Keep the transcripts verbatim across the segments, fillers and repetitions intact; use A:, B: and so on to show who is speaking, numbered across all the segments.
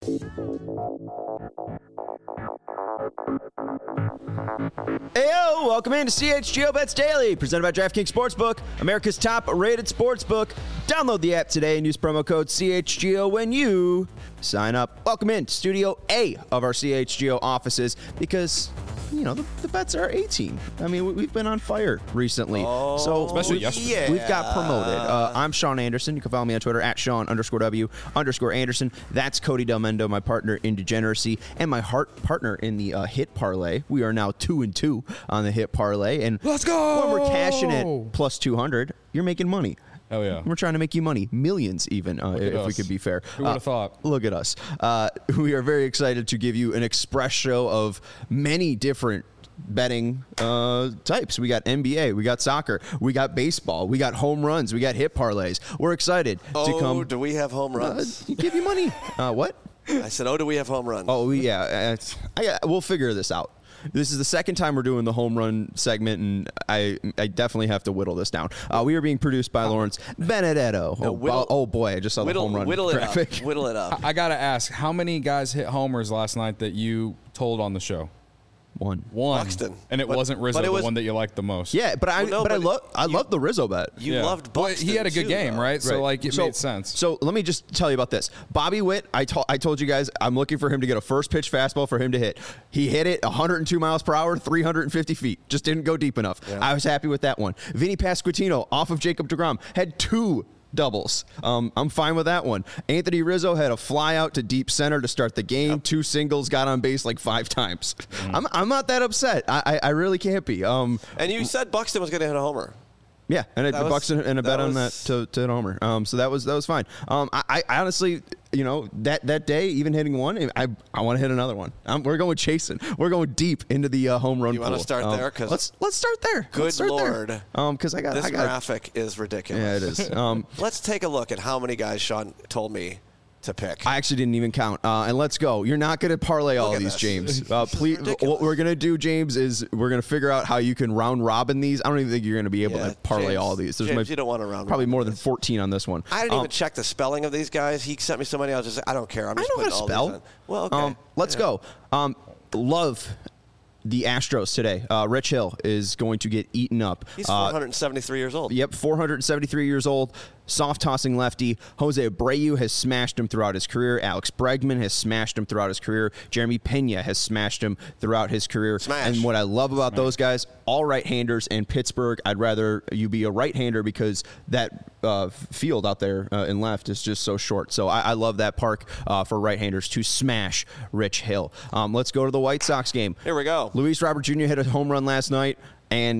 A: Heyo, welcome into C H G O Bets Daily, presented by DraftKings Sportsbook, America's top-rated sportsbook. Download the app today and use promo code C H G O when you sign up. Welcome in to Studio A of our C H G O offices because, you know, the, the bets are eighteen. I mean, we, we've been on fire recently.
B: Oh,
A: so
B: especially yesterday.
A: Yeah. We've got promoted. Uh, I'm Sean Anderson. You can follow me on Twitter at Sean underscore W underscore Anderson. That's Cody Del Mendo, my partner in Degeneracy, and my heart partner in the uh, Hit Parlay. We are now two and two on the Hit Parlay. And
B: let's go!
A: When we're cashing it plus two hundred, you're making money.
B: Hell yeah.
A: We're trying to make you money. Millions, even, uh, if
B: us.
A: we could be fair.
B: Who would have
A: uh,
B: thought?
A: Look at us. Uh, we are very excited to give you an express show of many different betting uh, types. We got N B A, we got soccer, we got baseball, we got home runs, we got hit parlays. We're excited
C: oh,
A: to come.
C: Oh, do we have home runs?
A: Uh, give you money. Uh, what?
C: I said, oh, do we have home runs?
A: Oh, yeah. It's, I, we'll figure this out. This is the second time we're doing the home run segment, and I I definitely have to whittle this down. Uh, we are being produced by Lawrence Benedetto.
C: No,
A: oh,
C: whittle,
A: oh, boy, I just saw
C: whittle,
A: the home run
C: whittle
A: graphic.
C: It up. Whittle it up.
B: I, I got to ask, how many guys hit homers last night that you told on the show?
A: One.
B: One.
C: Buxton.
B: And it
C: but,
B: wasn't Rizzo,
C: it was,
B: the one that you liked the most.
A: Yeah, but I
C: well, no,
A: but,
C: but
A: I love I
C: you,
A: love the Rizzo bet.
C: You
B: yeah.
C: loved Buxton.
B: Well, he had a good
C: too,
B: game,
C: though.
B: right? So
A: right.
B: like it
A: so,
B: made sense.
A: So let me just tell you about this. Bobby Witt, I told I told you guys I'm looking for him to get a first pitch fastball for him to hit. He hit it one hundred two miles per hour, three hundred fifty feet. Just didn't go deep enough. Yeah. I was happy with that one. Vinny Pasquantino off of Jacob deGrom had two doubles. Um, I'm fine with that one. Anthony Rizzo had a fly out to deep center to start the game. Yep. Two singles, got on base like five times. Mm. I'm I'm not that upset. I I, I really can't be. Um,
C: and you said Buxton was going to hit a homer.
A: Yeah, and it,
C: was,
A: Buxton and a bet
C: was,
A: on that to, to hit homer. Um, so that was that was fine. Um, I, I honestly, you know, that, that day, even hitting one, I I want to hit another one. Um, we're going chasing. We're going deep into the uh, home run.
C: You want to start
A: um,
C: there? Cause
A: let's let's start there.
C: Good
A: start
C: lord!
A: There. Um, because I got
C: this
A: I got,
C: graphic is ridiculous.
A: Yeah, it is. Um,
C: let's take a look at how many guys Sean told me to pick.
A: I actually didn't even count. Uh, and let's go. You're not going to parlay all of these,
C: this.
A: James. Uh, please. What we're going to do, James, is we're going to figure out how you can round robin these. I don't even think you're going to be able
C: yeah,
A: to parlay
C: James,
A: all of these. There's
C: James,
A: my,
C: you don't want to round
A: probably more than
C: this.
A: fourteen on this one.
C: I didn't
A: um,
C: even check the spelling of these guys. He sent me so many. I was just like, I don't care. I'm just
A: I know
C: putting
A: how to
C: all
A: spell.
C: these in. Well, okay.
A: Um, let's
C: yeah.
A: go. Um, love the Astros today. Uh, Rich Hill is going to get eaten up.
C: He's
A: uh,
C: four hundred seventy-three years old.
A: Yep, four hundred seventy-three years old. Soft tossing lefty. Jose Abreu has smashed him throughout his career. Alex Bregman has smashed him throughout his career. Jeremy Pena has smashed him throughout his career.
C: Smash.
A: And what I love about
B: Smash.
A: those guys, all right-handers in Pittsburgh. I'd rather you be a right-hander because that uh, field out there uh, in left is just so short. So I, I love that park uh, for right-handers to smash Rich Hill. Um, let's go to the White Sox game.
C: Here we go.
A: Luis Robert Junior hit a home run last night, and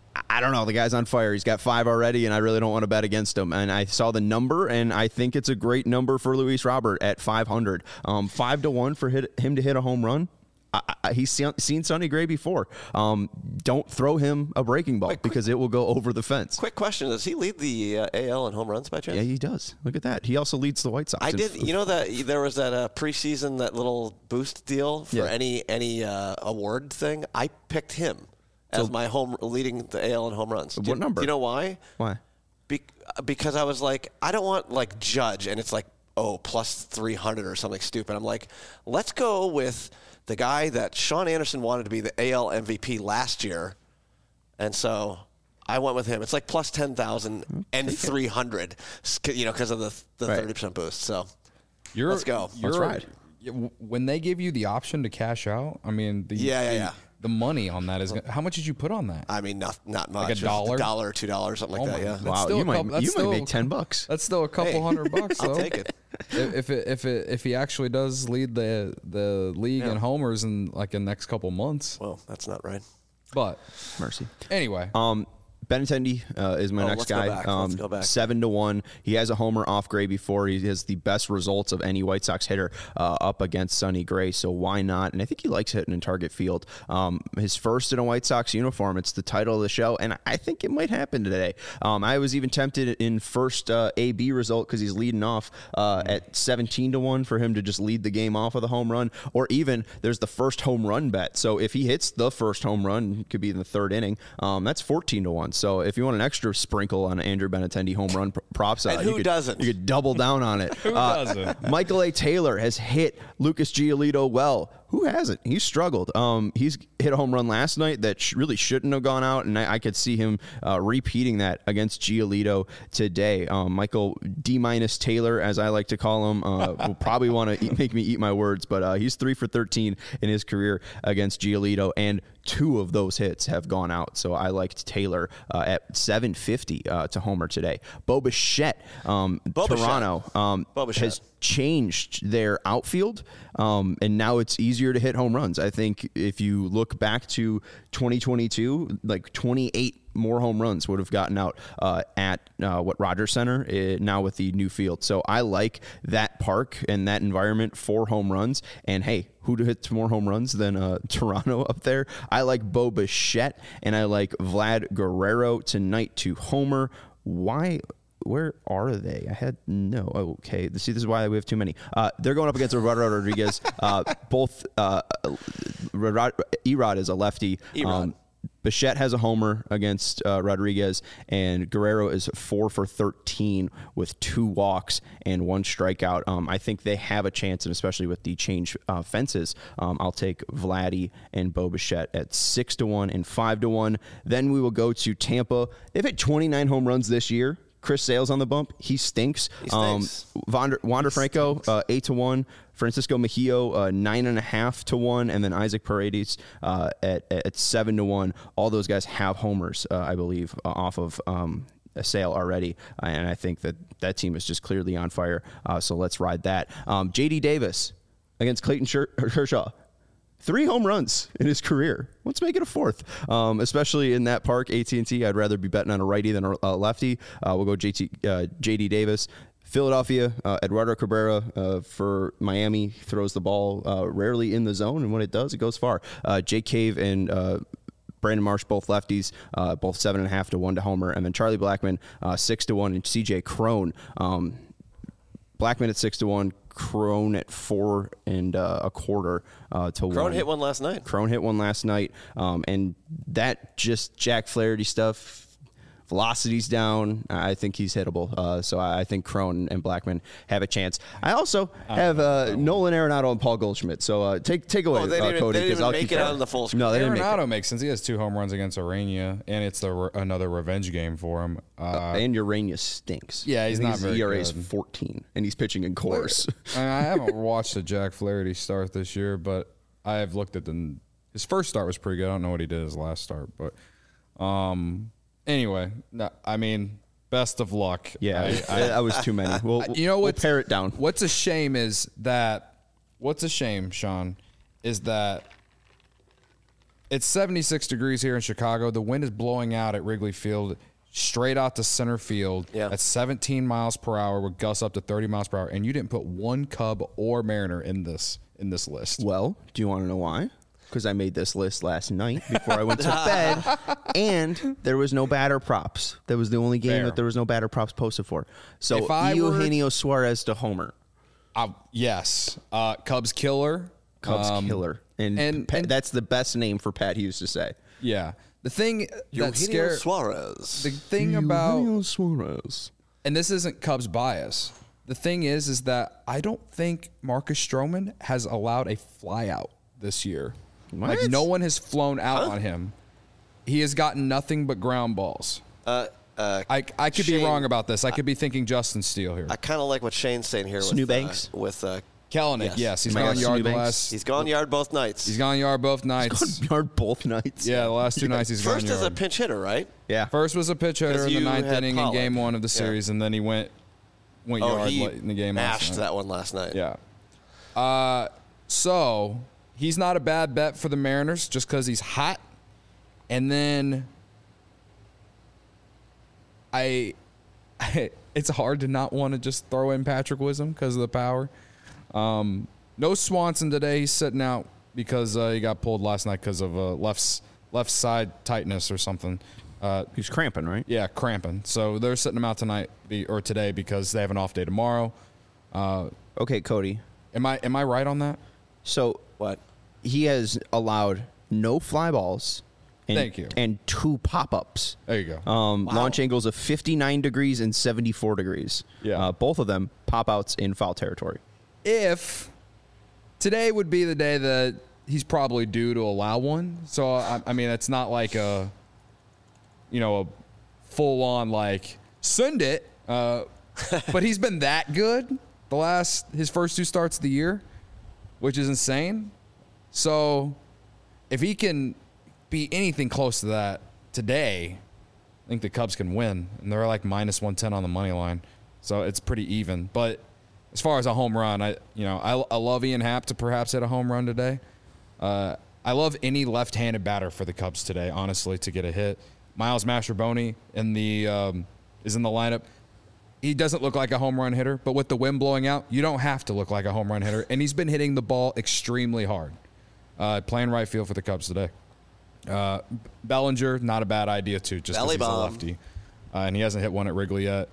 A: I don't know. The guy's on fire. He's got five already, and I really don't want to bet against him. And I saw the number, and I think it's a great number for Luis Robert at five hundred. Um, five to one for hit, him to hit a home run. I, I, he's seen, seen Sonny Gray before. Um, don't throw him a breaking ball Wait, because quick, it will go over the fence.
C: Quick question: does he lead the uh, A L in home runs by chance?
A: Yeah, he does. Look at that. He also leads the White Sox.
C: I did. You know that there was that uh, preseason that little boost deal for
A: yeah.
C: any any uh, award thing. I picked him as so, my home leading the A L in home runs.
A: What
C: do,
A: number?
C: Do you know why?
A: Why?
C: Be- because I was like, I don't want like Judge, and it's like, oh, plus three hundred or something stupid. I'm like, let's go with the guy that Sean Anderson wanted to be the A L M V P last year, and so I went with him. It's like plus ten thousand and three hundred, you know, because of the the thirty right. percent boost. So
B: you're,
C: let's go.
A: Let's ride.
B: When they give you the option to cash out, I mean, the,
C: yeah, yeah,
B: the,
C: yeah.
B: the money on that is. How much did you put on that?
C: I mean, not not much.
B: Like a dollar,
C: a dollar or two dollars, something like
B: oh
C: that. Yeah.
A: Wow, you might
B: couple,
A: you
B: still,
A: might make ten bucks.
B: That's still a couple
C: hey,
B: hundred bucks. Though.
C: I'll take it.
B: If it if it if he actually does lead the the league
C: yeah.
B: in homers in like in the next couple months.
C: Well, that's not right.
B: But
A: mercy.
B: Anyway,
A: um. Benintendi uh, is my
C: oh,
A: next
C: let's
A: guy.
C: Go back.
A: Um,
C: let's go back.
A: Seven to one. He has a homer off Gray before. He has the best results of any White Sox hitter uh, up against Sonny Gray. So why not? And I think he likes hitting in target field. Um, his first in a White Sox uniform. It's the title of the show, and I think it might happen today. Um, I was even tempted in first uh, A B result because he's leading off uh, at seventeen to one for him to just lead the game off of the home run, or even there's the first home run bet. So if he hits the first home run, it could be in the third inning. Um, that's fourteen to one. So if you want an extra sprinkle on an Andrew Benintendi home run pr- prop side,
C: And who
A: you could,
C: doesn't?
A: You could double down on it.
B: Who
A: Uh,
B: doesn't?
A: Michael A. Taylor has hit Lucas Giolito well. Who hasn't? He's struggled. Um, he's hit a home run last night that sh- really shouldn't have gone out, and I, I could see him uh, repeating that against Giolito today. Um, Michael D minus Taylor, as I like to call him, uh, will probably want to make me eat my words, but uh, he's three for thirteen in his career against Giolito, and two of those hits have gone out. So I liked Taylor uh, at seven fifty uh, to homer today. Bo Bichette, um,
C: Bo Bichette.
A: Toronto, um,
C: Bo Bichette.
A: has changed their outfield, um, and now it's easier to hit home runs. I think if you look back to twenty twenty-two, like twenty-eight more home runs would have gotten out uh, at uh, what Rogers Center uh, now with the new field. So I like that park and that environment for home runs. And hey, who hits more home runs than uh, Toronto up there? I like Bo Bichette, and I like Vlad Guerrero tonight to homer. Why? Where are they? I had no. Okay. See, this is why we have too many. Uh, they're going up against Eduardo Rodriguez. Uh, both uh, Erod is a lefty. Um, Bichette has a homer against uh, Rodriguez, and Guerrero is four for thirteen with two walks and one strikeout. Um, I think they have a chance, and especially with the change uh, fences, um, I'll take Vladdy and Bo Bichette at six to one and five to one. Then we will go to Tampa. They've hit twenty-nine home runs this year. Chris Sale's on the bump. He stinks.
C: He stinks.
A: Um, Wander, Wander Franco, uh, eight to one. Francisco Mejio, uh, nine and a half to one, and then Isaac Paredes uh, at at seven to one. All those guys have homers, uh, I believe, uh, off of um, a Sale already, uh, and I think that that team is just clearly on fire. Uh, so let's ride that. Um, J D Davis against Clayton Kershaw. Three home runs in his career. Let's make it a fourth, um, especially in that park, A T and T. I'd rather be betting on a righty than a lefty. Uh, we'll go J T, uh, J D Davis. Philadelphia, uh, Eduardo Cabrera uh, for Miami throws the ball uh, rarely in the zone, and when it does, it goes far. Uh, Jake Cave and uh, Brandon Marsh, both lefties, uh, both seven and a half to one to homer, and then Charlie Blackmon, uh, six to one, and C J Cron. Um, Blackmon at six to one. Crone at four and uh, a quarter uh, to one.
C: Crone hit one last night.
A: Crone hit one last night, um, and that just Jack Flaherty stuff. Velocity's down. I think he's hittable. Uh, so I think Crone and Blackmon have a chance. I also have uh, Nolan Arenado and Paul Goldschmidt. So uh, take take away,
C: Oh, they
A: uh,
C: didn't,
A: Cody.
C: they didn't
A: 'cause I'll
C: even make
A: keep
C: it
A: going.
C: on the full screen.
A: No, they didn't make
B: Arenado
A: it.
B: makes sense. He has two home runs against Urania, and it's the re- another revenge game for him. Uh,
A: And Urania stinks.
B: Yeah, he's
A: I think
B: not
A: his
B: very
A: E R A is
B: good.
A: fourteen, and he's pitching in course.
B: I, I haven't watched the Jack Flaherty start this year, but I have looked at the his first start was pretty good. I don't know what he did his last start, but um, anyway, no, I mean, best of luck.
A: Yeah,
B: I,
A: that was too many. We'll,
B: you know
A: we'll
B: what?
A: pare it down.
B: What's a shame is that. What's a shame, Sean, is that it's seventy-six degrees here in Chicago. The wind is blowing out at Wrigley Field, straight out to center field
C: Yeah.
B: at seventeen miles per hour with gusts up to thirty miles per hour, and you didn't put one Cub or Mariner in this in this list.
A: Well, do you want to know why? Because I made this list last night before I went to bed, and there was no batter props. That was the only game
B: Fair.
A: that there was no batter props posted for. So
B: If I were-
A: Eugenio Suarez to homer,
B: Uh, yes, uh, Cubs killer,
A: Cubs
B: Um,
A: killer, and,
B: and-
A: Pat,
B: and-
A: that's the best name for Pat Hughes to say.
B: Yeah, the thing that
C: Eugenio
B: scare
C: Suarez.
B: the thing about
A: Eugenio Suarez.
B: and this isn't Cubs bias. The thing is, is that I don't think Marcus Stroman has allowed a fly out this year. Like
A: What?
B: no one has flown out on him. He has gotten nothing but ground balls.
C: Uh, uh,
B: I I could be
C: Shane-
B: wrong about this. I could be thinking Justin Steele here.
C: I kind of like what Shane's saying here with
A: Snewbanks?
C: Uh, with uh,
B: Kellenic,
C: yes.
B: yes, he's
A: My
B: gone
A: God,
B: yard
A: Snewbanks.
B: last.
C: he's gone yard both nights.
B: He's gone yard both nights.
A: Yard both nights.
B: Yeah, the last two nights he's
C: First
B: gone
C: as a
B: yard.
C: pinch hitter, right?
A: yeah.
B: First was a pitch hitter
C: 'Cause
B: in the
C: you
B: ninth
C: had
B: inning
C: Pollock.
B: in game one of the
C: Yeah.
B: series, and then he went went
C: Oh,
B: yard
C: he
B: late in the game last
C: mashed
B: night.
C: that one last night.
B: Yeah. Uh, so he's not a bad bet for the Mariners just because he's hot. And then I, it's hard to not want to just throw in Patrick Wisdom because of the power. Um, no Swanson today. He's sitting out because uh, he got pulled last night because of uh, left left side tightness or something. Uh,
A: He's cramping, right?
B: yeah, cramping. So they're sitting him out tonight be, or today because they have an off day tomorrow. Uh,
A: Okay, Cody.
B: am I am I right on that?
A: So
C: What?
A: he has allowed no fly balls and,
B: Thank you.
A: and two pop-ups.
B: There you go.
A: Um,
C: Wow.
A: Launch angles of fifty-nine degrees and seventy-four degrees.
B: Yeah.
A: Uh, both of them pop-outs in foul territory.
B: If today would be the day that he's probably due to allow one. So, I, I mean, it's not like a, you know, a full-on, like, send it. Uh, but he's been that good the last, his first two starts of the year, which is insane. So, if he can be anything close to that today, I think the Cubs can win. And they're like minus one ten on the money line. So, it's pretty even. But as far as a home run, I you know, I, I love Ian Happ to perhaps hit a home run today. Uh, I love any left-handed batter for the Cubs today, honestly, to get a hit. Miles Mastrobuoni in the um, is in the lineup. He doesn't look like a home run hitter, but with the wind blowing out, you don't have to look like a home run hitter. And he's been hitting the ball extremely hard. Uh, playing right field for the Cubs today. Uh, Bellinger, not a bad idea too, just because
C: Belly
B: he's a
C: bomb.
B: lefty, uh, and he hasn't hit one at Wrigley yet.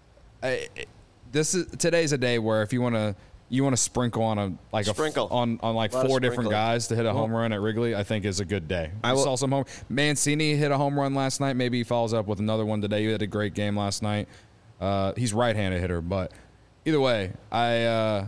B: I, this is today's a day where if you want to you want to sprinkle on a like
C: Sprinkle.
B: a on on like
C: Lot of
B: four different
C: sprinkling.
B: guys to hit a home run at Wrigley, I think is a good day. I
A: I will-
B: saw some home. Mancini hit a home run last night. Maybe he follows up with another one today. He had a great game last night. Uh, he's right-handed hitter, but either way, I uh,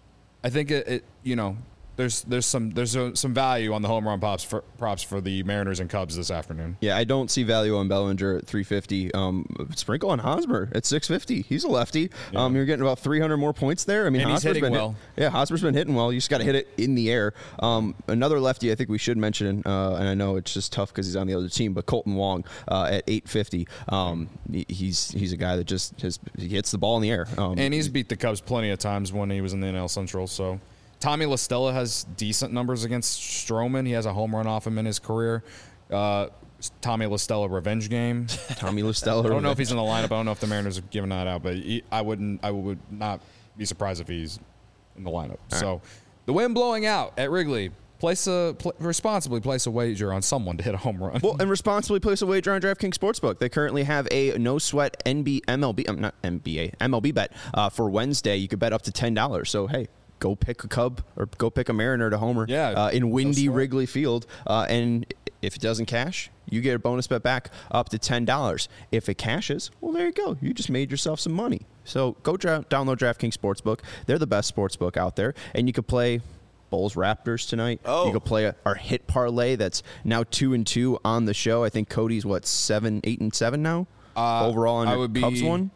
B: I think it, it you know there's there's some there's a, some value on the home run props for props for the Mariners and Cubs this afternoon.
A: Yeah, I don't see value on Bellinger at three fifty. Um, sprinkle on Hosmer at six fifty. He's a lefty. Um, you're getting about three hundred more points there. I mean,
B: And he's
A: Hosmer's
B: hitting
A: been hit-
B: well.
A: yeah, Hosmer's been hitting well. You just got to hit it in the air. Um, another lefty I think we should mention, uh, and I know it's just tough because he's on the other team, but Colton Wong uh, at eight fifty. Um, he- he's he's a guy that just has, he hits the ball in the air. Um,
B: And he's beat the Cubs plenty of times when he was in the N L Central. So Tommy La Stella has decent numbers against Stroman. He has a home run off him in his career. Uh, Tommy La Stella revenge game.
A: Tommy LaStella.
B: I don't know if he's in the lineup. I don't know if the Mariners are giving that out, but he, I wouldn't. I would not be surprised if he's in the lineup. So the wind blowing out at Wrigley. Place a pl- responsibly place a wager on someone to hit a home run.
A: Well, and responsibly place a wager on DraftKings Sportsbook. They currently have a no sweat N B M L B, um, not N B A, M L B bet uh, for Wednesday. You could bet up to ten dollars. So hey, go pick a Cub or go pick a Mariner to homer.
B: Yeah,
A: uh, in windy
B: sweat.
A: Wrigley Field. Uh, and if it doesn't cash, you get a bonus bet back up to ten dollars. If it cashes, well, there you go. You just made yourself some money. So go dra- download DraftKings Sportsbook. They're the best sportsbook out there, and you could play Bulls Raptors tonight.
C: Oh.
A: You could play a, our hit parlay that's now two and two on the show. I think Cody's what seven, eight and seven now
B: Uh,
A: overall on
B: I
A: your
B: would be-
A: Cubs one.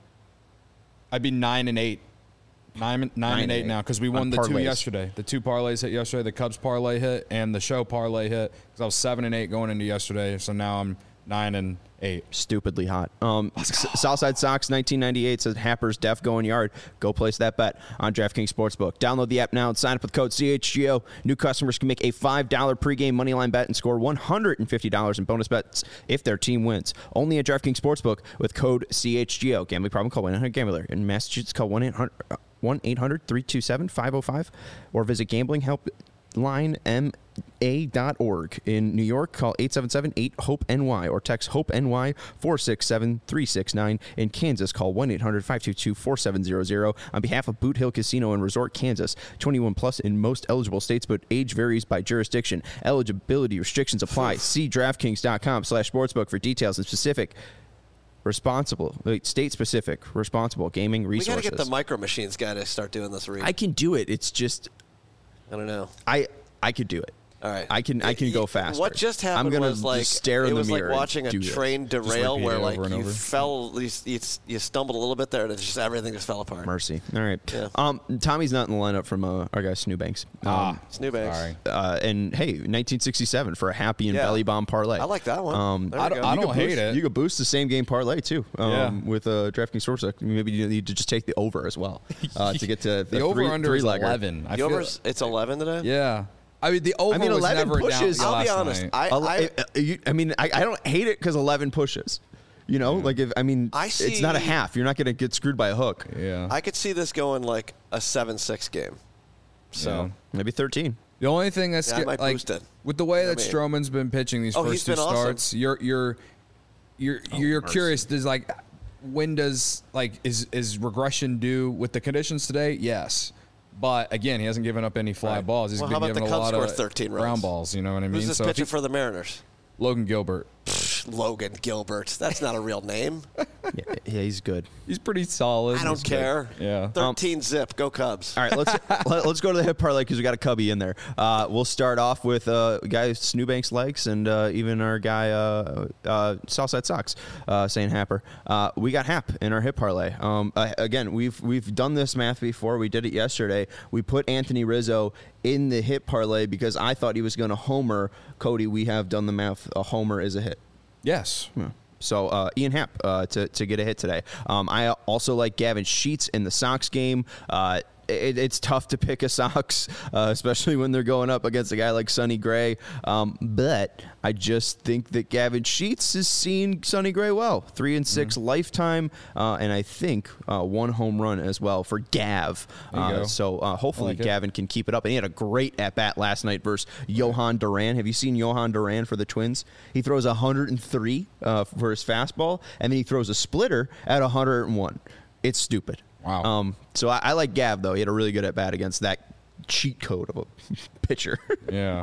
B: I'd be nine and eight. Nine, nine, nine and eight,
A: eight.
B: now because we won
A: On
B: the two
A: parlays.
B: yesterday. The two parlays hit yesterday. The Cubs parlay hit and the show parlay hit because I was seven and eight going into yesterday. So now I'm nine and eight.
A: Stupidly hot. Um, S- Southside Sox nineteen ninety-eight says Happer's def going yard. Go place that bet on DraftKings Sportsbook. Download the app now and sign up with code C H G O. New customers can make a five dollars pregame moneyline bet and score one hundred fifty dollars in bonus bets if their team wins. Only at DraftKings Sportsbook with code C H G O. Gambling problem? Call one eight hundred gambler. In Massachusetts, call one eight hundred one eight hundred three two seven five oh five or visit gambling help line m a dot org. In New York, call eight seven seven eight hope N Y or text HOPE-NY four six seven three six nine. In Kansas, call one eight hundred five two two four seven zero zero. On behalf of Boot Hill Casino and Resort, Kansas, twenty-one plus in most eligible states, but age varies by jurisdiction. Eligibility restrictions apply. See DraftKings.com slash sportsbook for details and specific responsible, wait, state-specific, responsible gaming
C: We
A: resources.
C: got to get the Micro Machines guy to start doing this read.
A: I can do it. It's just
C: I don't know.
A: I I could do it.
C: All right.
A: I can I can go faster.
C: What just happened
A: I'm gonna
C: was like
A: just stare in
C: it
A: the
C: was
A: mirror
C: like
A: and
C: watching a
A: do this.
C: train derail
B: repeat
C: where
B: it
C: like
B: over and
C: you
B: over.
C: fell, you, you, you stumbled a little bit there, and it's just everything just fell apart.
A: Mercy. All right.
C: Yeah.
A: Um, Tommy's not in the lineup from uh, our guy Snewbanks. Um,
B: Ah,
C: Snewbanks.
B: sorry.
A: uh, and hey, nineteen sixty-seven for a happy and
C: Yeah.
A: belly bomb parlay.
C: I like that one.
A: Um,
C: There we
B: I don't-
C: go.
B: I
A: you
B: don't
A: could
B: hate
A: boost,
B: it.
A: You could boost the same game parlay too. Um,
B: Yeah.
A: with uh, DraftKings Sportsbook. Maybe you need to just take the over as well uh, to get to
B: The over under is
A: three-legger.
B: eleven. I
C: The
B: feel,
C: over's it's eleven today.
B: yeah. I mean the over
A: I mean,
B: was
A: eleven
B: never
A: pushes.
B: down
C: I'll be
B: last
C: honest.
B: night.
C: I,
A: Ele-
C: I
A: uh, you- I mean, I, I don't hate it because eleven pushes. You know, like if I mean,
C: I
A: it's not a
C: see-
A: half. You're not going to get screwed by a hook.
B: yeah.
C: I could see this going like a seven six game. So
B: Yeah.
A: Maybe thirteen.
B: The only thing that's
C: Yeah, I
B: sca-
C: might
B: like
C: boost it.
B: with the way
C: You know
B: that
C: what I
B: Stroman's been pitching these
C: Oh,
B: first
C: he's
B: two
C: been awesome.
B: starts, you're you're you're you're
A: mercy.
B: curious. Does like when does like is is regression due with the conditions today? Yes, but again, he hasn't given up any fly
C: Right.
B: balls. He's
C: Well,
B: been
C: how about
B: giving
C: the
B: a
C: Cubs
B: lot
C: score
B: of
C: thirteen runs?
B: ground balls. You know what I mean?
C: who's this
B: so if
C: pitcher
B: he-
C: for the Mariners?
B: Logan Gilbert.
C: Logan Gilbert. That's not a real name.
A: yeah, yeah, he's good.
B: He's pretty solid.
C: I don't
B: He's
C: care.
B: Good. Yeah.
C: thirteen um, zip. Go Cubs.
A: All right, let's let, let's go to the hip parlay because we got a cubby in there. Uh, we'll start off with uh, guy Snewbanks likes and uh, even our guy uh, uh, Southside Sox, uh, saying Happer. Uh, we got Hap in our hip parlay. Um, uh, again, we've we've done this math before. We did it yesterday. We put Anthony Rizzo in the hit parlay because I thought he was going to homer. Cody, we have done the math. A homer is a hit.
B: Yes.
A: Yeah. So uh, Ian Happ uh, to to get a hit today. Um, I also like Gavin Sheets in the Sox game. Uh, it, it's tough to pick a Sox, uh, especially when they're going up against a guy like Sonny Gray. Um, but I just think that Gavin Sheets is seeing Sonny Gray well. Three and six mm-hmm. lifetime, uh, and I think uh, one home run as well for Gav. Uh, so uh, hopefully like Gavin can keep it up. And he had a great at bat last night versus Johan Duran. Have you seen Johan Duran for the Twins? He throws one hundred three uh, for his fastball, and then he throws a splitter at one hundred one. It's stupid.
B: Wow.
A: Um, so I, I like Gav, though. He had a really good at bat against that cheat code of a pitcher.
B: yeah.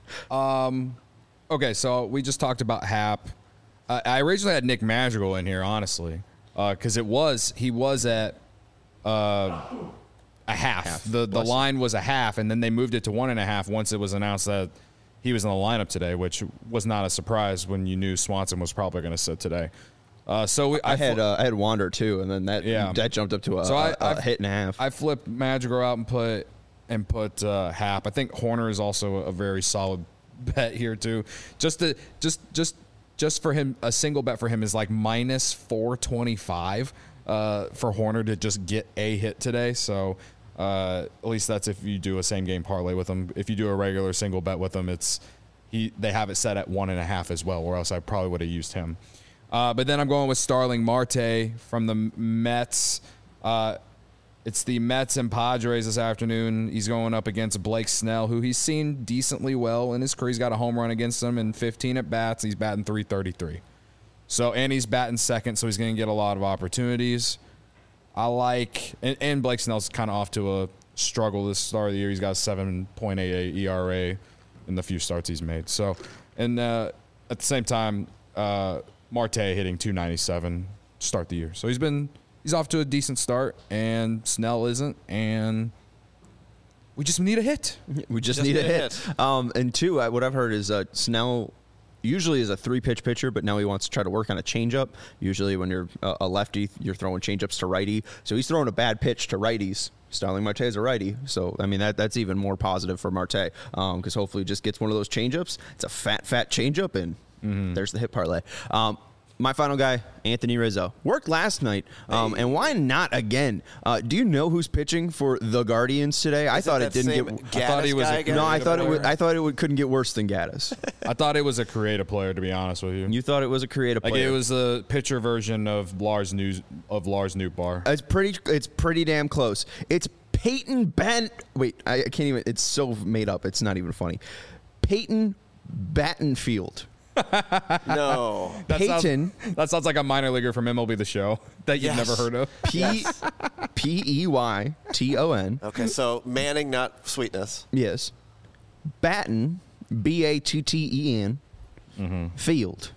B: Um. Okay, so we just talked about Hap. Uh, I originally had Nick Madrigal in here, honestly, because uh, it was he was at uh, a half. half. The the line was a half, and then they moved it to one and a half once it was announced that he was in the lineup today, which was not a surprise when you knew Swanson was probably going to sit today. Uh, so we,
A: I, I had
B: fl-
A: uh, I had Wander too, and then that
B: yeah.
A: that jumped up to a,
B: so I,
A: a, a hit and a half.
B: I flipped Madrigal out and put and put uh, Hap. I think Horner is also a very solid bet here too. Just to just just just for him, a single bet for him is like minus four twenty five uh, for Horner to just get a hit today. So uh, at least that's if you do a same game parlay with him. If you do a regular single bet with him, it's he they have it set at one and a half as well. Or else I probably would have used him. Uh, but then I'm going with Starling Marte from the Mets. Uh, it's the Mets and Padres this afternoon. He's going up against Blake Snell, who he's seen decently well in his career. He's got a home run against him in fifteen at bats. He's batting three thirty-three. So, and he's batting second, so he's going to get a lot of opportunities. I like, and, and Blake Snell's kind of off to a struggle this start of the year. He's got a seven point eight eight E R A in the few starts he's made. So, and uh, at the same time, uh, Marte hitting two ninety-seven to start the year. So he's been he's off to a decent start, and Snell isn't, and we just need a hit.
A: We just, just need, need a hit. hit. Um, and two, what I've heard is uh, Snell usually is a three-pitch pitcher, but now he wants to try to work on a changeup. Usually when you're a lefty, you're throwing changeups to righty. So he's throwing a bad pitch to righties. Starling Marte is a righty. So, I mean, that that's even more positive for Marte because um, hopefully he just gets one of those changeups. It's a fat, fat changeup, and Mm-hmm. there's the hit parlay. Um, my final guy, Anthony Rizzo, worked last night, um, hey. and why not again? Uh, do you know who's pitching for the Guardians today? Is I thought it didn't get.
C: Gaddis I thought he was. A,
A: no, I thought player? it. Would, I thought it would, couldn't get worse than Gaddis.
B: I thought it was a creative player, to be honest with you.
A: You thought it was a creative
B: like
A: player.
B: Like it was a pitcher version of Lars News of Lars Nootbaar.
A: It's pretty. It's pretty damn close. It's Peyton Ben. Wait, I, I can't even. It's so made up. It's not even funny. Peyton Battenfield.
C: No.
B: That
A: Peyton.
B: Sounds, that sounds like a minor leaguer from M L B The Show that you've
C: yes.
B: never heard of.
A: P yes. P E Y T O N.
C: Okay, so Manning, not Sweetness.
A: Yes. Batten, B A T T E N, mm-hmm. Field.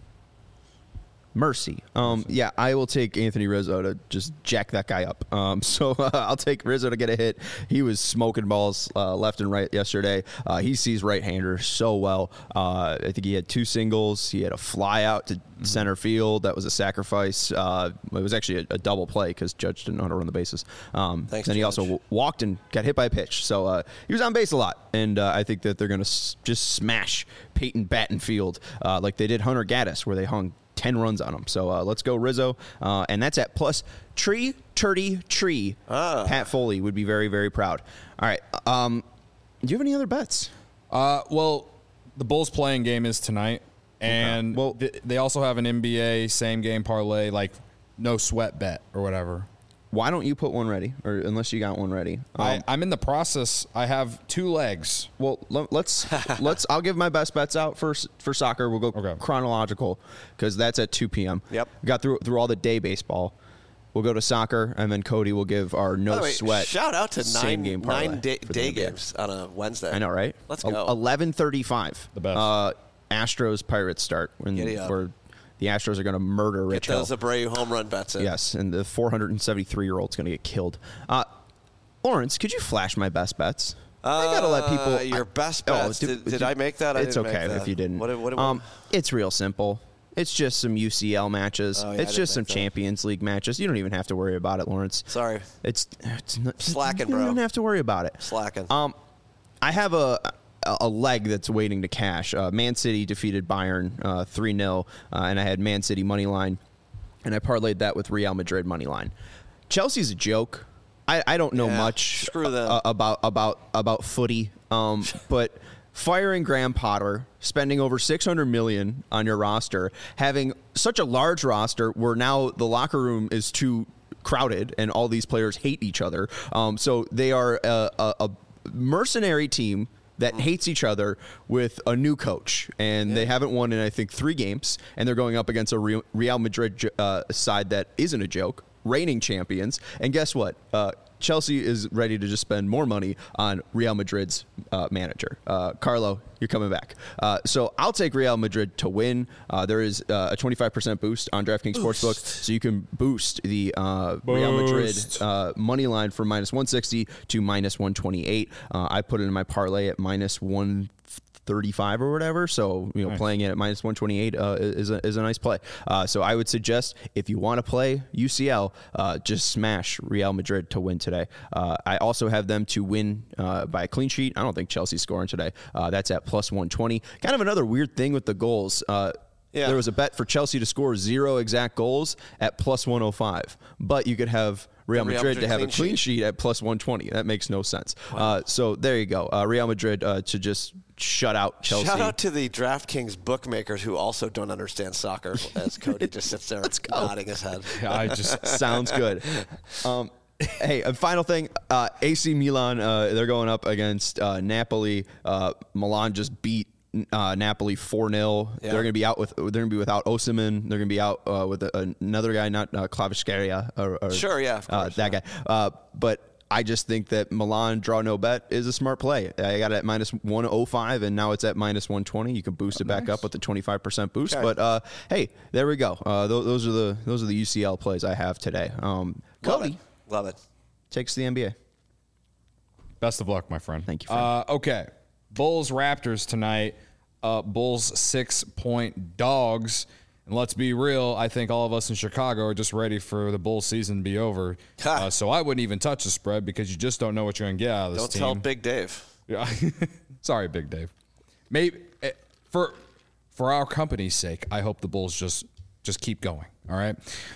A: Mercy. Um, yeah, I will take Anthony Rizzo to just jack that guy up. Um, so uh, I'll take Rizzo to get a hit. He was smoking balls uh, left and right yesterday. Uh, he sees right-handers so well. Uh, I think he had two singles. He had a fly out to mm-hmm. center field. That was a sacrifice. Uh, it was actually a, a double play because Judge didn't know how to run the bases. Um,
C: Thanks,
A: then he
C: Judge.
A: also w- walked and got hit by a pitch. So uh, he was on base a lot. And uh, I think that they're going to s- just smash Peyton Battenfield uh, like they did Hunter Gaddis, where they hung ten runs on him. So uh, let's go Rizzo. Uh, and that's at plus tree, turdy, tree.
C: Ah.
A: Pat Foley would be very, very proud. All right. Um, do you have any other bets?
B: Uh, well, the Bulls playing game is tonight. And
A: okay. well,
B: th- they also have an N B A same game parlay, like no sweat bet or whatever.
A: Why don't you put one ready, or unless you got one ready? Um,
B: I, I'm in the process. I have two legs.
A: Well, let's let's. I'll give my best bets out for for soccer. We'll go
B: okay.
A: chronological because that's at two p.m.
C: Yep.
A: We got through through all the day baseball. We'll go to soccer, and then Cody will give our no
C: way,
A: sweat.
C: Shout out to
A: same
C: nine
A: game
C: nine day, day
A: N B A.
C: games on a Wednesday.
A: I know, right?
C: Let's go.
A: Eleven thirty-five.
B: The best.
A: Uh, Astros Pirates start when where the Astros are going to murder Rich
C: Get those
A: Hill.
C: Abreu home run bets in.
A: Yes, and the four hundred seventy-three year old's going to get killed. Uh, Lawrence, could you flash my best bets?
C: Uh,
A: I gotta let people.
C: Your
A: I,
C: best bets. Oh, did, did, did I make that? I
A: it's
C: didn't
A: okay
C: make that.
A: if you didn't.
C: What, what, what,
A: um, it's real simple. It's just some U C L matches.
C: Oh, yeah,
A: it's just some that. Champions League matches. You don't even have to worry about it, Lawrence.
C: Sorry.
A: It's, it's not,
C: slacking,
A: you
C: bro.
A: You don't have to worry about it.
C: Slacking.
A: Um, I have a a leg that's waiting to cash. Uh, Man City defeated Bayern uh, three nil, uh, and I had Man City money line, and I parlayed that with Real Madrid money line. Chelsea's a joke. I, I don't know
C: yeah,
A: much
C: screw them.
A: Uh, about about about footy, um, but. Firing Graham Potter, spending over six hundred million dollars on your roster, having such a large roster where now the locker room is too crowded and all these players hate each other. Um, so they are a, a, a mercenary team that hates each other with a new coach, and yeah. they haven't won in, I think, three games, and they're going up against a Real, Real Madrid uh, side that isn't a joke, reigning champions. And guess what? Uh, Chelsea is ready to just spend more money on Real Madrid's uh, manager. Uh, Carlo, you're coming back. Uh, so I'll take Real Madrid to win. Uh, there is uh, a twenty-five percent boost on DraftKings boost. Sportsbook, so you can boost the uh, boost. Real Madrid uh, money line from minus one sixty to minus one twenty-eight. Uh, I put it in my parlay at minus one thirty-five or whatever, so you know, nice. Playing it at minus one twenty-eight uh, is a is a nice play. Uh, so I would suggest if you want to play U C L, uh, just smash Real Madrid to win today. Uh, I also have them to win uh, by a clean sheet. I don't think Chelsea's scoring today. Uh, that's at plus one twenty. Kind of another weird thing with the goals. Uh, yeah. There was a bet for Chelsea to score zero exact goals at plus one oh five, but you could have Real Madrid, Real Madrid to have clean a clean sheet. sheet at plus one twenty. That makes no sense. Wow. Uh, so there you go. Uh, Real Madrid uh, to just shut out Chelsea.
C: Shout out to the DraftKings bookmakers who also don't understand soccer, as Cody just sits there nodding his head.
A: Yeah, I just sounds good. Um, hey, a final thing. Uh, A C Milan, uh, they're going up against uh, Napoli. Uh, Milan just beat Uh, Napoli four nil. Yeah. They're going to be out with. They're going to be without Osimhen. They're going to be out uh, with a, another guy, not uh, Kvaratskhelia. Or, or,
C: sure, yeah, of course,
A: uh, that
C: yeah.
A: guy. Uh, but I just think that Milan draw no bet is a smart play. I got it at minus one oh five, and now it's at minus one twenty. You can boost oh, it back nice. up with the twenty-five percent boost. Okay. But uh, hey, there we go. Uh, th- those are the those are the U C L plays I have today. Um,
C: Love
A: Cody,
C: it. Love it.
A: Takes the N B A.
B: Best of luck, my friend.
A: Thank you. Friend.
B: Uh, okay, Bulls Raptors tonight. Uh, Bulls six point dogs. And let's be real, I think all of us in Chicago are just ready for the Bulls season to be over. Uh, so I wouldn't even touch the spread because you just don't know what you're going to get out of this
C: don't
B: team.
C: Don't tell Big Dave.
B: Yeah. Sorry, Big Dave. Maybe for for our company's sake, I hope the Bulls just just keep going. All right.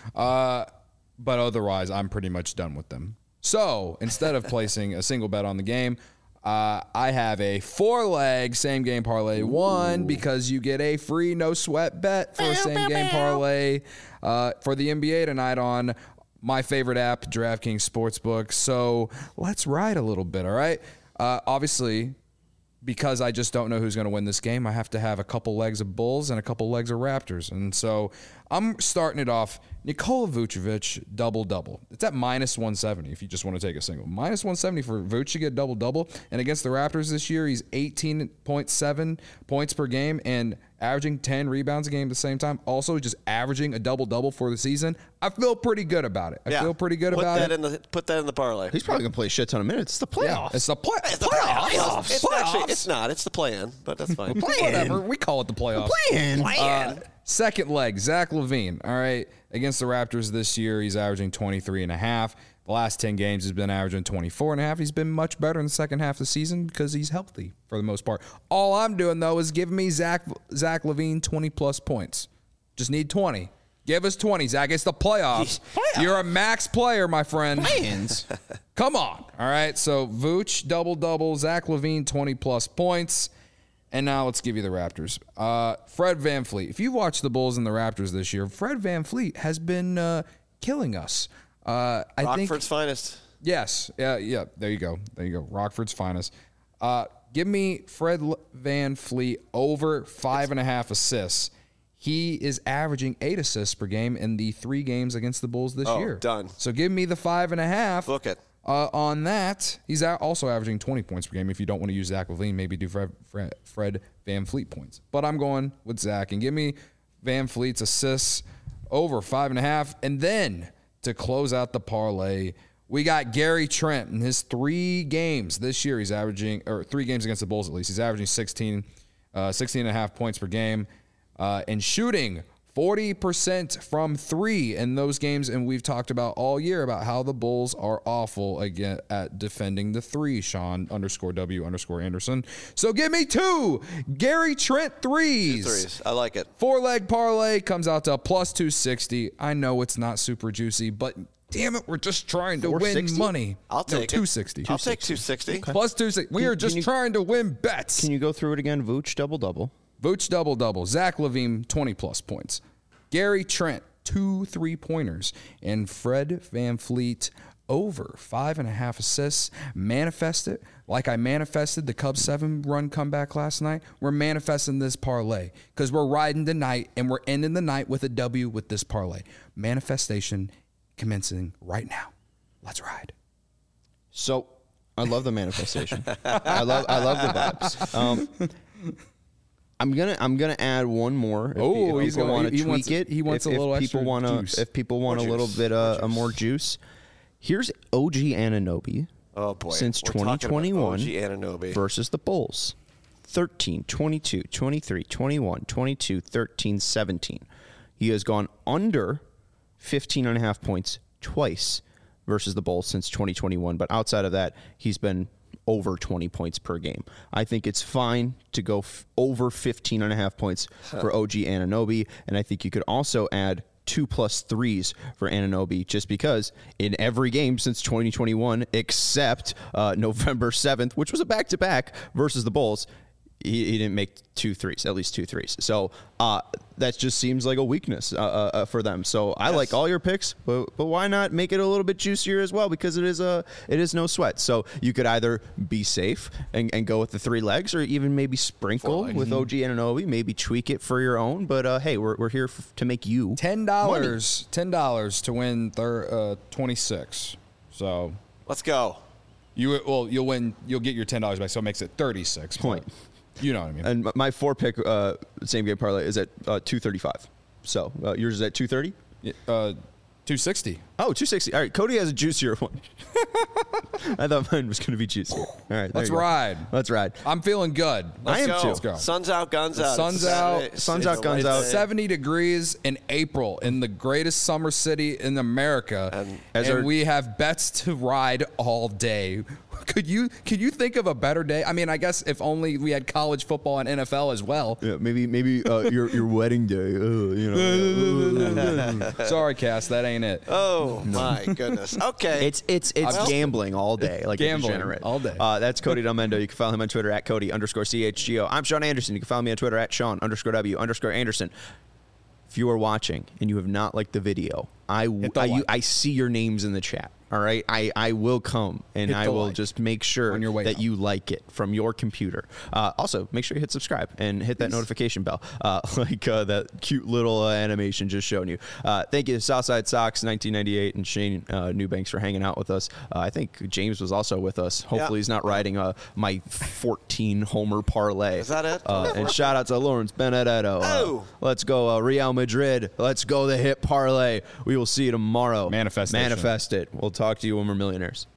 B: Uh, but otherwise, I'm pretty much done with them. So instead of placing a single bet on the game, Uh, I have a four-leg same-game parlay one because you get a free no-sweat bet for a same-game parlay uh, for the N B A tonight on my favorite app, DraftKings Sportsbook. So let's ride a little bit, all right? Uh, obviously, because I just don't know who's going to win this game, I have to have a couple legs of Bulls and a couple legs of Raptors. And so I'm starting it off. Nikola Vucevic, double-double. It's at minus one seventy if you just want to take a single. minus one seventy for Vuce to get double-double. And against the Raptors this year, he's eighteen point seven points per game and averaging ten rebounds a game at the same time. Also, just averaging a double-double for the season. I feel pretty good about it. I
C: yeah.
B: feel pretty good
C: put
B: about
C: that
B: it.
C: In the, put that in the parlay.
A: He's probably going to play a shit ton of minutes. It's the playoffs.
B: Yeah, it's the, play-
C: it's the
B: playoffs.
C: playoffs. It's,
B: playoffs.
C: Actually, it's not. It's the play-in, but that's fine.
B: Whatever. We call it the playoffs.
A: Play-in.
B: Uh, second leg, Zach LaVine. All right. Against the Raptors this year, he's averaging twenty-three and a half. The last ten games, he's been averaging twenty-four and a half. He's been much better in the second half of the season because he's healthy for the most part. All I'm doing, though, is giving me Zach Zach LaVine twenty-plus points. Just need twenty. Give us twenty, Zach. It's the playoffs. playoffs. You're a max player, my friend.
A: Plans.
B: Come on. All right, so Vooch, double-double. Zach LaVine, twenty-plus points. And now let's give you the Raptors. Uh, Fred VanVleet. If you've watched the Bulls and the Raptors this year, Fred VanVleet has been uh, killing us. Uh, I
C: Rockford's
B: think,
C: finest.
B: Yes. Yeah, yeah. There you go. There you go. Rockford's finest. Uh, give me Fred VanVleet over five and a half assists. He is averaging eight assists per game in the three games against the Bulls this
C: oh,
B: year.
C: Done.
B: So give me the five and a half.
C: Book it.
B: Uh, on that, he's a- also averaging twenty points per game. If you don't want to use Zach LaVine, maybe do Fred, Fred, Fred VanVleet points. But I'm going with Zach. And give me VanVleet's assists over five and a half. And then to close out the parlay, we got Gary Trent in his three games this year. He's averaging, or three games against the Bulls at least. He's averaging sixteen, uh, sixteen and a half points per game uh, and shooting forty percent from three in those games, and we've talked about all year about how the Bulls are awful again at defending the three. Sean underscore W underscore Anderson. So give me two Gary Trent threes.
C: Two threes. I like it.
B: Four leg parlay comes out to plus two sixty. I know it's not super juicy, but damn it, we're just trying to win money.
C: I'll take
B: no,
C: it.
B: two sixty.
C: I'll take two sixty.
B: Okay. Plus two sixty. We are just
A: you,
B: trying to win bets.
A: Can you go through it again? Vooch double double.
B: Vooch double double. Zach LaVine twenty plus points. Gary Trent two three pointers, and Fred VanVleet over five and a half assists. Manifest it like I manifested the Cubs seven run comeback last night. We're manifesting this parlay because we're riding the night and we're ending the night with a W with this parlay. Manifestation commencing right now. Let's ride.
A: So I love the manifestation. I love I love the vibes. Um, I'm gonna I'm gonna add one more. If
B: Oh,
A: you,
B: he's
A: people
B: gonna-
A: want to
B: he
A: tweak
B: wants-
A: it.
B: he wants
A: if,
B: a little
A: if people
B: extra
A: wanna,
B: juice.
A: If people want
C: More
A: a little
C: juice.
A: bit
C: More
A: uh,
C: juice.
A: more juice, here's O G Anunoby.
C: Oh, boy.
A: Since
C: We're talking about
A: twenty twenty-one
C: O G Anunoby.
A: versus the Bulls. thirteen, twenty-two, twenty-three, twenty-one, twenty-two, thirteen, seventeen. He has gone under fifteen and a half points twice versus the Bulls since twenty twenty-one. But outside of that, he's been over twenty points per game. I think it's fine to go f- over fifteen and a half points for O G Anunoby. And I think you could also add two plus threes for Anunoby just because in every game since twenty twenty-one, except uh, November seventh, which was a back-to-back versus the Bulls, he, he didn't make two threes, at least two threes. So uh, that just seems like a weakness uh, uh, for them. So I
C: Yes.
A: like all your picks, but but why not make it a little bit juicier as well? Because it is a it is no sweat. So you could either be safe and, and go with the three legs, or even maybe sprinkle with O G Anunoby, maybe tweak it for your own. But uh, hey, we're we're here f- to make you
B: Ten dollars. Ten dollars to win thir- uh, twenty six. So
C: Let's go.
B: you well you'll win. You'll get your ten dollars back. So it makes it thirty six.
A: Point.
B: You know what I mean.
A: And my four pick uh, same game parlay is at uh, two thirty-five. So uh, yours is at two thirty?
B: Uh, two sixty.
A: Oh, two sixty. All right, Cody has a juicier one. I thought mine was going to be juicier. All right, there
B: Let's
A: you go.
B: ride.
A: Let's ride.
B: I'm feeling good.
A: I am
C: Go.
A: too.
B: Let's go.
C: Sun's out, guns out.
B: sun's
C: It's
B: out,
C: Saturday.
A: sun's
C: It's
A: out, guns
C: a
A: out.
C: Wednesday.
B: seventy degrees in April in the greatest summer city in America,
C: And-
B: and,
A: As our-
B: we have bets to ride all day. Could you could you think of a better day? I mean, I guess if only we had college football and N F L as well.
A: Yeah, maybe maybe uh, your your wedding day. Uh, you know.
B: Sorry, Cass, that ain't it.
C: Oh, my goodness. Okay.
A: It's it's it's
C: Well-
A: gambling all day, like
B: Gambling
A: a degenerate.
B: all day.
A: Uh, that's Cody Delmendo. You can follow him on Twitter at Cody underscore C H G O. I'm Sean Anderson. You can follow me on Twitter at Sean underscore W underscore Anderson. If you are watching and you have not liked the video, I
B: the
A: I, you,
B: like.
A: I see your names in the chat. All right, I, I will come and
B: Hit
A: I
B: the
A: will
B: like
A: just make sure
B: on your way
A: that
B: out.
A: you like it from your computer. Uh, also, make sure you hit subscribe and hit that notification bell, uh, like uh, that cute little uh, animation just showing you. Uh, thank you to Southside Sox nineteen ninety-eight and Shane uh, Newbanks for hanging out with us. Uh, I think James was also with us. Hopefully,
C: Yeah.
A: he's not riding uh, my fourteen homer parlay.
C: Is that it?
A: Uh, and shout out to Lawrence Benedetto. Uh,
C: Oh.
A: let's go uh, Real Madrid. Let's go the hit parlay. We will see you tomorrow.
B: Manifestation.
A: Manifest it. We'll talk to you when we're millionaires.